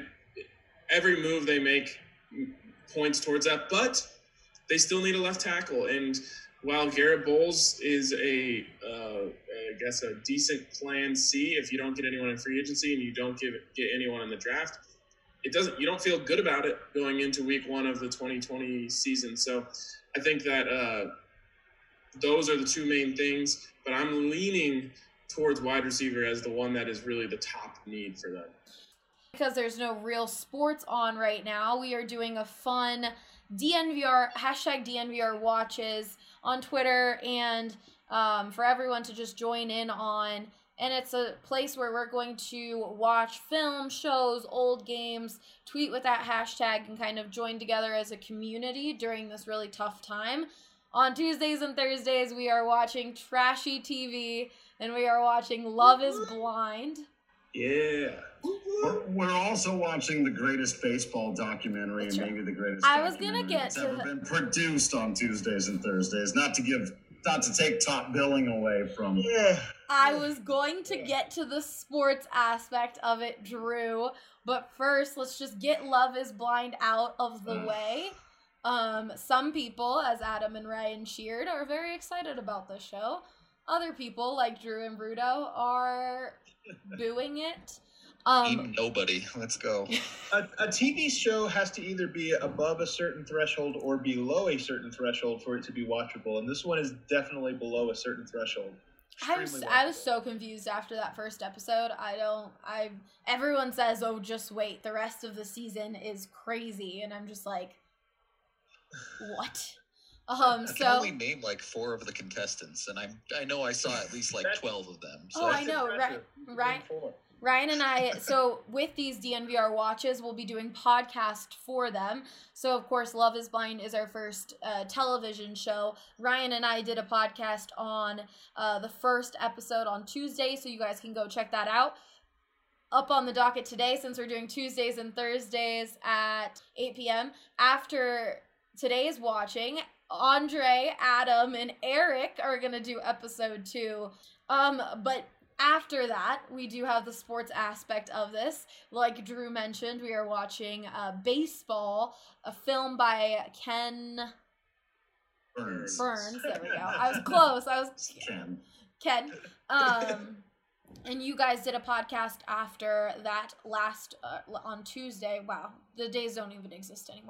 every move they make points towards that, but they still need a left tackle. And while Garrett Bowles is I guess a decent plan C if you don't get anyone in free agency and you don't get anyone in the draft, you don't feel good about it going into week 1 of the 2020 season. So I think that those are the two main things, but I'm leaning towards wide receiver as the one that is really the top need for them. Because there's no real sports on right now, we are doing a fun DNVR, #DNVR watches on Twitter, and for everyone to just join in on. And it's a place where we're going to watch film, shows, old games, tweet with that hashtag, and kind of join together as a community during this really tough time. On Tuesdays and Thursdays, we are watching trashy TV, and we are watching Love is Blind. Yeah. We're also watching the greatest baseball documentary and maybe the greatest I was going to get that's ever been produced on Tuesdays and Thursdays. Not to take top billing away from. Yeah. I was going to get to the sports aspect of it, Drew, but first let's just get Love is Blind out of the way. Some people, as Adam and Ryan cheered, are very excited about this show. Other people, like Drew and Bruto, are booing it. Even nobody. Let's go. A TV show has to either be above a certain threshold or below a certain threshold for it to be watchable, and this one is definitely below a certain threshold. I was so confused after that first episode. Everyone says, "Oh, just wait. The rest of the season is crazy," and I'm just like, what? I can only name like 4 of the contestants, and I know I saw at least like 12 of them. So. Oh, I know, right? Ryan and I, so with these DNVR watches, we'll be doing podcast for them. So, of course, Love is Blind is our first television show. Ryan and I did a podcast on the first episode on Tuesday, so you guys can go check that out. Up on the docket today, since we're doing Tuesdays and Thursdays at 8 p.m. After today's watching, Andre, Adam, and Eric are going to do episode 2. But after that, we do have the sports aspect of this. Like Drew mentioned, we are watching Baseball, a film by Ken Burns. There we go. I was close. Ken. And you guys did a podcast after that last on Tuesday. Wow, the days don't even exist anymore.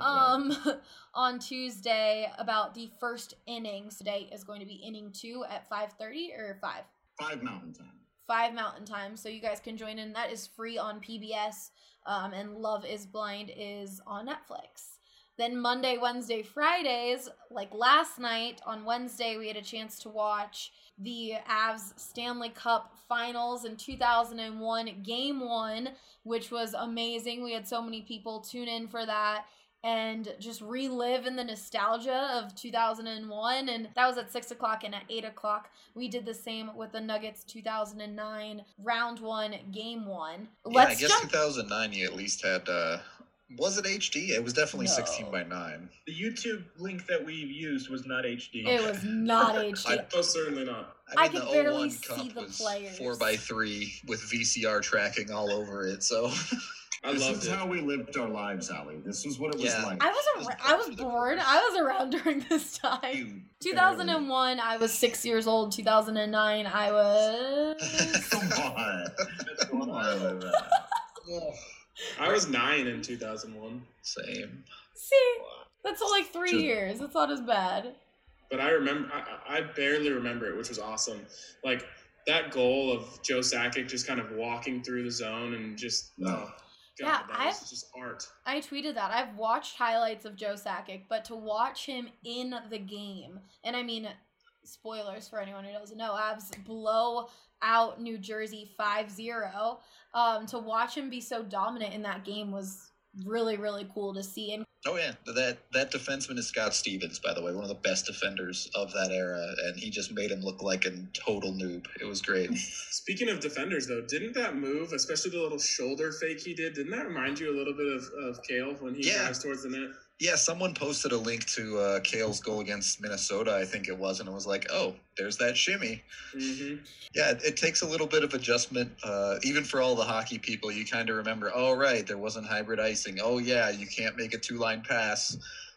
On Tuesday about the first innings. Today is going to be inning 2 at 5:30 or 5. 5 Mountain Time. 5 Mountain Time, so you guys can join in. That is free on PBS, and Love is Blind is on Netflix. Then Monday, Wednesday, Fridays, like last night, on Wednesday, we had a chance to watch the Avs Stanley Cup Finals in 2001, Game 1, which was amazing. We had so many people tune in for that and just relive in the nostalgia of 2001, and that was at 6 o'clock, and at 8 o'clock we did the same with the Nuggets 2009 round 1 game 1. I guess 2009 you at least had was it HD? It was definitely 16:9. The YouTube link that we used was not HD. It was not HD. Most certainly not. I could barely see the players. 4x3 with VCR tracking all over it, so This is how we lived our lives, Allie. This was what it was like. I was born. I was around during this time. 2001, I was 6 years old. 2009, I was... Come on. I was 9 in 2001. Same. See, that's only 3 years. That's not as bad. But I remember, I barely remember it, which was awesome. Like, that goal of Joe Sakic just kind of walking through the zone and just, God, that was just art. I tweeted that. I've watched highlights of Joe Sakic, but to watch him in the game, and I mean, spoilers for anyone who doesn't know, Avs blow out New Jersey 5-0. To watch him be so dominant in that game was really, really cool to see. And oh yeah, that defenseman is Scott Stevens, by the way, one of the best defenders of that era, and he just made him look like a total noob. It was great. Speaking of defenders, though, didn't that move, especially the little shoulder fake he did, didn't that remind you a little bit of Cale when he drives towards the net? Yeah, someone posted a link to Cale's goal against Minnesota, I think it was, and it was like, oh, there's that shimmy. Mm-hmm. Yeah, it takes a little bit of adjustment. Even for all the hockey people, you kind of remember, oh, right, there wasn't hybrid icing. Oh, yeah, you can't make a 2-line pass.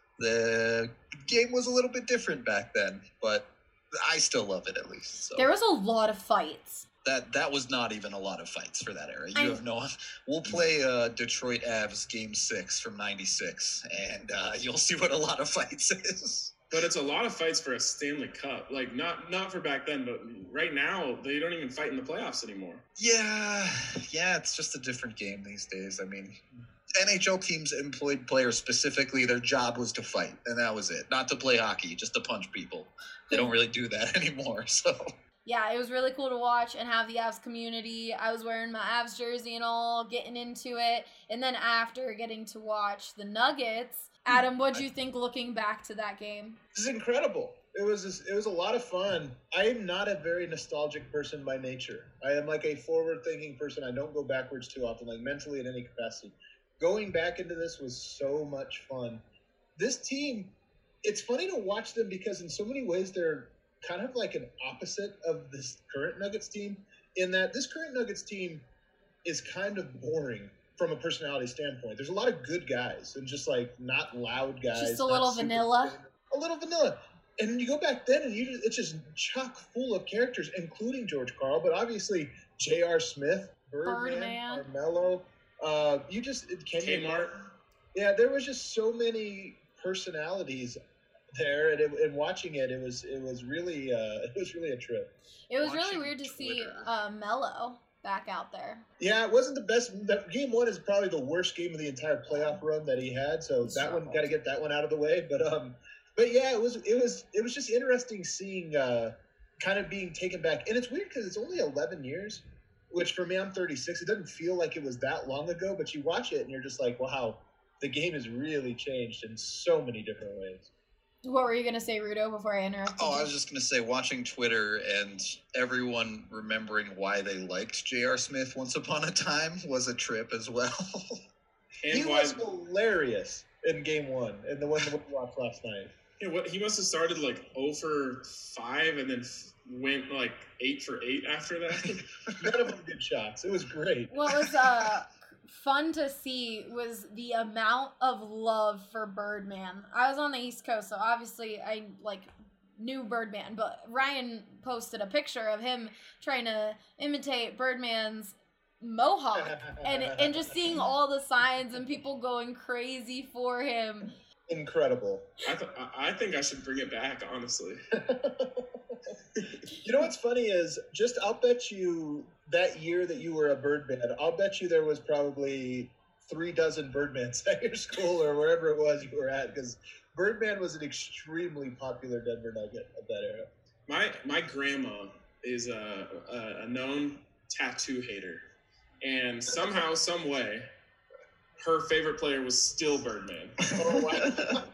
The game was a little bit different back then, but I still love it at least. So. There was a lot of fights. That was not even a lot of fights for that era. You have no. We'll play Detroit Avs Game 6 from '96, and you'll see what a lot of fights is. But it's a lot of fights for a Stanley Cup. Like not for back then, but right now they don't even fight in the playoffs anymore. Yeah, it's just a different game these days. I mean, NHL teams employed players specifically. Their job was to fight, and that was it. Not to play hockey, just to punch people. They don't really do that anymore. So. Yeah, it was really cool to watch and have the Avs community. I was wearing my Avs jersey and all, getting into it. And then after getting to watch the Nuggets, Adam, what'd you think looking back to that game? This is incredible. It was a lot of fun. I am not a very nostalgic person by nature. I am like a forward-thinking person. I don't go backwards too often, like mentally in any capacity. Going back into this was so much fun. This team, it's funny to watch them because in so many ways they're kind of like an opposite of this current Nuggets team, in that this current Nuggets team is kind of boring from a personality standpoint. There's a lot of good guys and just like not loud guys. Just a little vanilla. A little vanilla. And you go back then and it's just chock full of characters, including George Karl, but obviously J.R. Smith, Birdman. Carmelo, Kmart. Yeah, there was just so many personalities there, and watching it was really a trip. It was really weird to see Melo back out there. Yeah, it wasn't the best. Game 1 is probably the worst game of the entire playoff run that he had, so that one got to get that one out of the way. But yeah, it was just interesting seeing kind of being taken back, and it's weird because it's only 11 years, which for me, I'm 36. It doesn't feel like it was that long ago, but you watch it and you're just like, wow, the game has really changed in so many different ways. What were you going to say, Rudo, before I interrupted you? I was just going to say, watching Twitter and everyone remembering why they liked J.R. Smith once upon a time was a trip as well. He was hilarious in Game 1, and the one that we watched last night. Yeah, he must have started like 0 for 5 and then went like 8 for 8 after that. None of them good shots. It was great. What was fun to see was the amount of love for Birdman. I was on the East Coast, so obviously I knew Birdman, but Ryan posted a picture of him trying to imitate Birdman's mohawk and just seeing all the signs and people going crazy for him. Incredible. I think I should bring it back, honestly. You know what's funny is I'll bet you that year that you were a Birdman, I'll bet you there was probably 3 dozen Birdmans at your school or wherever it was you were at, because Birdman was an extremely popular Denver Nugget of that era. My grandma is a known tattoo hater, and somehow, some way, her favorite player was still Birdman. Oh, wow.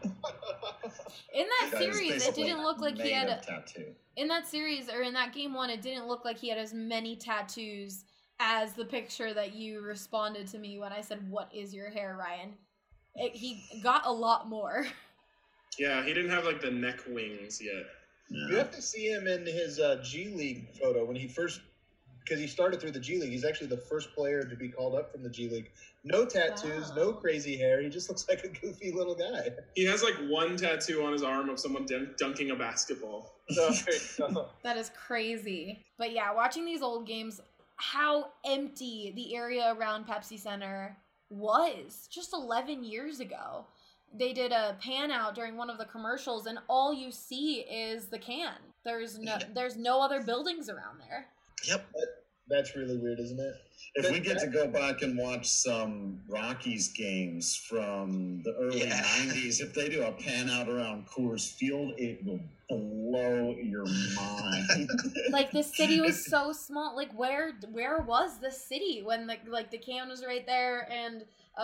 In that series, it didn't look like he had a tattoo. In that series, or in that Game 1, it didn't look like he had as many tattoos as the picture that you responded to me when I said, "What is your hair, Ryan?" He got a lot more. Yeah, he didn't have like the neck wings yet. Yeah. You have to see him in his G League photo when he first, because he started through the G League. He's actually the first player to be called up from the G League. No tattoos, no crazy hair. He just looks like a goofy little guy. He has like one tattoo on his arm of someone dunking a basketball. That is crazy. But yeah, watching these old games, how empty the area around Pepsi Center was just 11 years ago. They did a pan out during one of the commercials, and all you see is the can. There's no other buildings around there. Yep. That's really weird, isn't it? If we get to go back and watch some Rockies games from the early 90s, if they do a pan out around Coors Field, it will blow your mind. Like, the city was so small. Like, where was the city when the can was right there and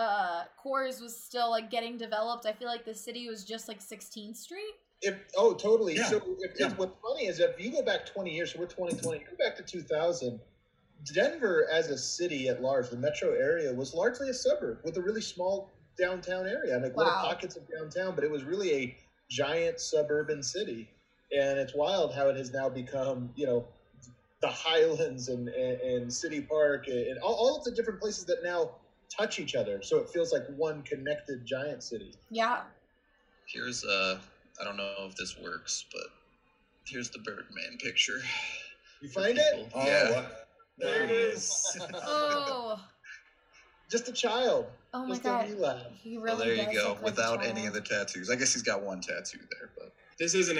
Coors was still like getting developed? I feel like the city was just like 16th Street. Totally. Yeah. So what's funny is if you go back 20 years, so we're 2020, go back to 2000. Denver as a city at large, the metro area, was largely a suburb with a really small downtown area. Like little pockets of downtown, but it was really a giant suburban city. And it's wild how it has now become, the Highlands and City Park and all of the different places that now touch each other. So it feels like one connected giant city. Yeah. Here's, I don't know if this works, but here's the Birdman picture. You find it? Oh, yeah. There it is. Oh. Just a child. Oh my Just God. He really there you go. Without any of the tattoos. I guess he's got one tattoo there, but this isn't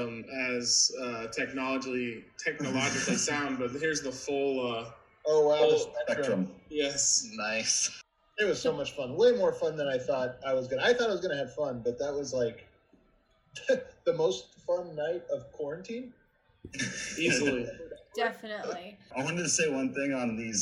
as technologically sound, but here's the full the spectrum. Yes. Nice. It was so much fun. Way more fun than I thought I was gonna. I thought I was gonna have fun, but that was like the most fun night of quarantine. Easily. Definitely. I wanted to say one thing on these,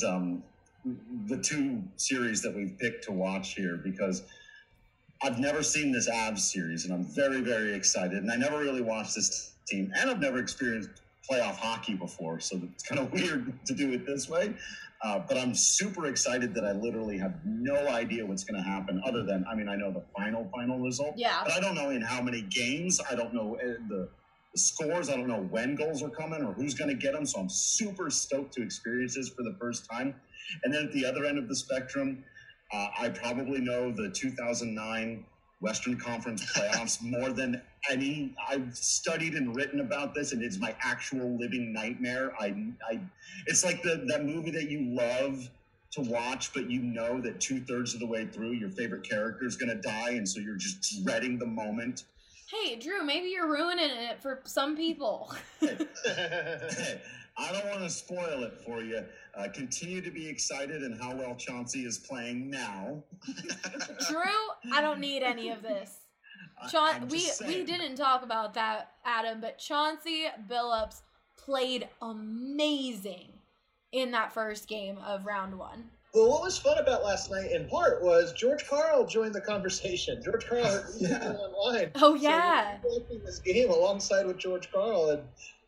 the two series that we've picked to watch here, because I've never seen this Avs series, and I'm very, very excited. And I never really watched this team, and I've never experienced playoff hockey before, so it's kind of weird to do it this way. But I'm super excited that I literally have no idea what's going to happen other than, I know the final result. Yeah. But I don't know in how many games. I don't know the scores. I don't know when goals are coming or who's going to get them. So I'm super stoked to experience this for the first time. And then at the other end of the spectrum, I probably know the 2009 Western Conference playoffs more than any. I've studied and written about this, and it's my actual living nightmare. It's like that movie that you love to watch, but you know that 2/3 of the way through, your favorite character is going to die, and so you're just dreading the moment. Hey, Drew, maybe you're ruining it for some people. Hey, I don't want to spoil it for you. Continue to be excited in how well Chauncey is playing now. Drew, I don't need any of this. We didn't talk about that, Adam, but Chauncey Billups played amazing in that first game of round one. Well, what was fun about last night, in part, was George Karl joined the conversation. George Karl was online. Oh, yeah. So we were watching this game alongside with George Karl. And,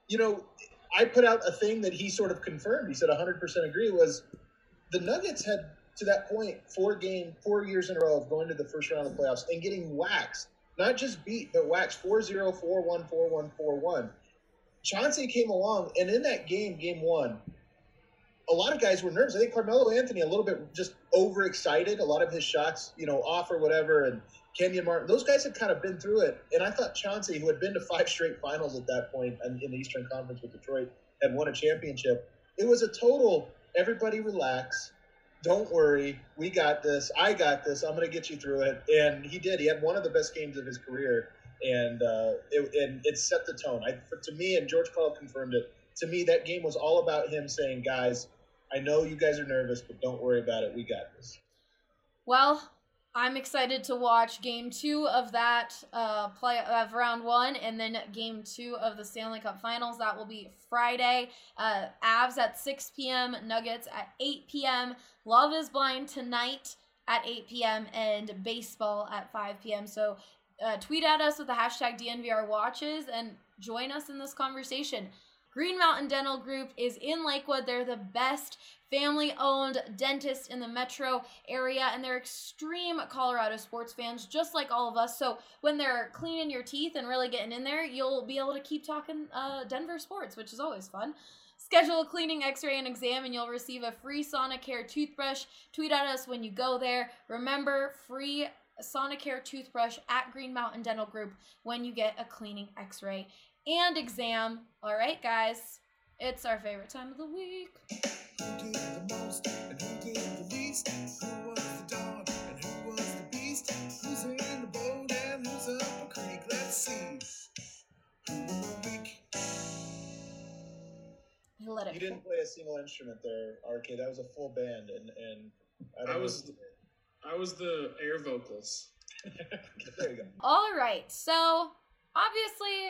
I put out a thing that he sort of confirmed. He said 100% agree, was the Nuggets had, to that point, 4 years in a row of going to the first round of the playoffs and getting waxed. Not just beat, but waxed 4-0, 4-1, 4-1, 4-1. Chauncey came along, and in that game one, a lot of guys were nervous. I think Carmelo Anthony a little bit just overexcited. A lot of his shots, off or whatever. And Kenyon Martin, those guys had kind of been through it. And I thought Chauncey, who had been to 5 straight finals at that point in the Eastern Conference with Detroit, had won a championship. It was a total, everybody relax. Don't worry. We got this. I got this. I'm going to get you through it. And he did. He had one of the best games of his career. And it set the tone. To me, and George Karl confirmed it, to me, that game was all about him saying, guys, I know you guys are nervous, but don't worry about it. We got this. Well, I'm excited to watch Game 2 of that of Round 1, and then Game 2 of the Stanley Cup Finals. That will be Friday. Avs at 6 p.m., Nuggets at 8 p.m., Love is Blind tonight at 8 p.m., and baseball at 5 p.m. So tweet at us with the hashtag DNVRWatches and join us in this conversation. Green Mountain Dental Group is in Lakewood. They're the best family-owned dentist in the metro area, and they're extreme Colorado sports fans, just like all of us. So when they're cleaning your teeth and really getting in there, you'll be able to keep talking Denver sports, which is always fun. Schedule a cleaning, x-ray, and exam, and you'll receive a free Sonicare toothbrush. Tweet at us when you go there. Remember, free Sonicare toothbrush at Green Mountain Dental Group when you get a cleaning, x-ray, and exam. All right, guys, it's our favorite time of the week. Who did the most and who did the least? Who was the dog? You didn't play a single instrument there, RK. That was a full band, and I was the air vocals. There you go. All right, so obviously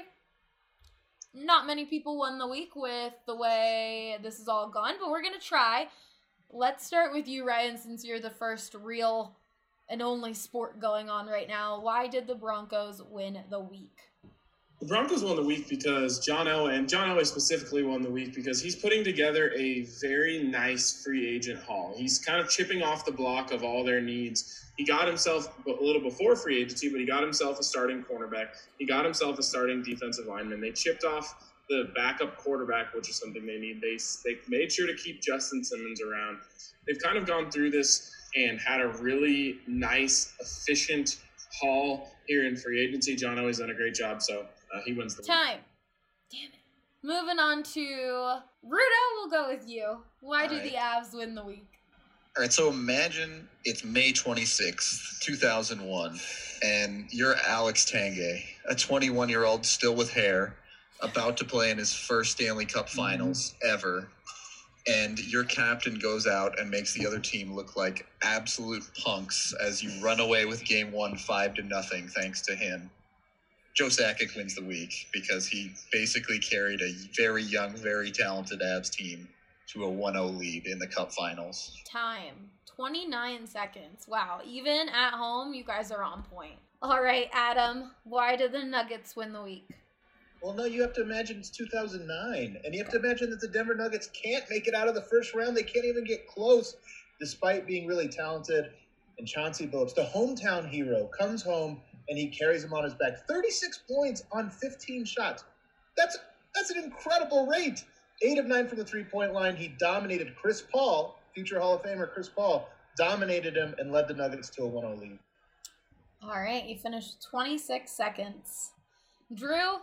not many people won the week with the way this is all gone, but we're going to try. Let's start with you, Ryan, since you're the first real and only sport going on right now. Why did the Broncos win the week? The Broncos won the week because John Elway specifically won the week because he's putting together a very nice free agent haul. He's kind of chipping off the block of all their needs. He got himself a little before free agency, but he got himself a starting cornerback. He got himself a starting defensive lineman. They chipped off the backup quarterback, which is something they need. They made sure to keep Justin Simmons around. They've kind of gone through this and had a really nice, efficient haul here in free agency. John Elway's done a great job, so he wins the week. Time. Damn it. Moving on to Rudo, we'll go with you. Why did the Avs win the week? All right, so imagine it's May 26th, 2001, and you're Alex Tanguay, a 21-year-old still with hair, about to play in his first Stanley Cup Finals ever, and your captain goes out and makes the other team look like absolute punks as you run away with Game 1 5-0 thanks to him. Joe Sakic wins the week because he basically carried a very young, very talented Avs team to a 1-0 lead in the Cup Finals. Time. 29 seconds. Wow. Even at home, you guys are on point. All right, Adam, why did the Nuggets win the week? Well, no, you have to imagine it's 2009, and you have to imagine that the Denver Nuggets can't make it out of the first round. They can't even get close, despite being really talented. And Chauncey Billups, the hometown hero, comes home, and he carries him on his back. 36 points on 15 shots. That's an incredible rate. 8 of 9 from the three-point line. He dominated Chris Paul, future Hall of Famer Chris Paul, dominated him and led the Nuggets to a 1-0 lead. All right, you finished 26 seconds. Drew,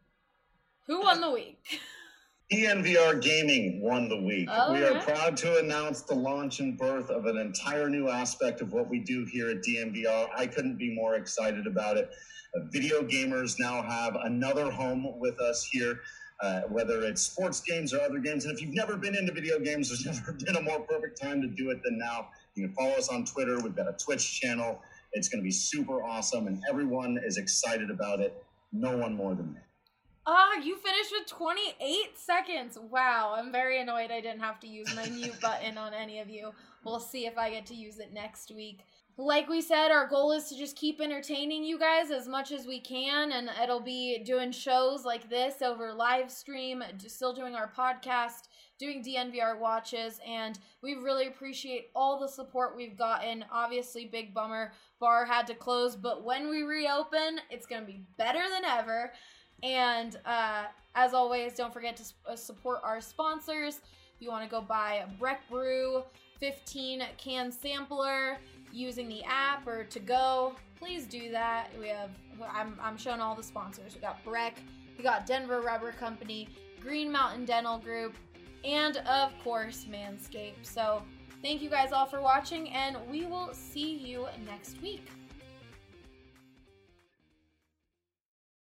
who won the week? DNVR Gaming won the week. Oh, we are proud to announce the launch and birth of an entire new aspect of what we do here at DNVR. I couldn't be more excited about it. Video gamers now have another home with us here. Whether it's sports games or other games. And if you've never been into video games, there's never been a more perfect time to do it than now. You can follow us on Twitter. We've got a Twitch channel. It's going to be super awesome, and everyone is excited about it. No one more than me. You finished with 28 seconds. Wow, I'm very annoyed I didn't have to use my mute button on any of you. We'll see if I get to use it next week. Like we said, our goal is to just keep entertaining you guys as much as we can, and it'll be doing shows like this over live stream, still doing our podcast, doing DNVR watches, and we really appreciate all the support we've gotten. Obviously, big bummer, bar had to close, but when we reopen, it's going to be better than ever. And as always, don't forget to support our sponsors. If you want to go buy a Breck Brew 15 can sampler using the app or to go, please do that. I'm showing all the sponsors. We got Breck, we got Denver Rubber Company, Green Mountain Dental Group, and of course Manscaped. So thank you guys all for watching, and we will see you next week.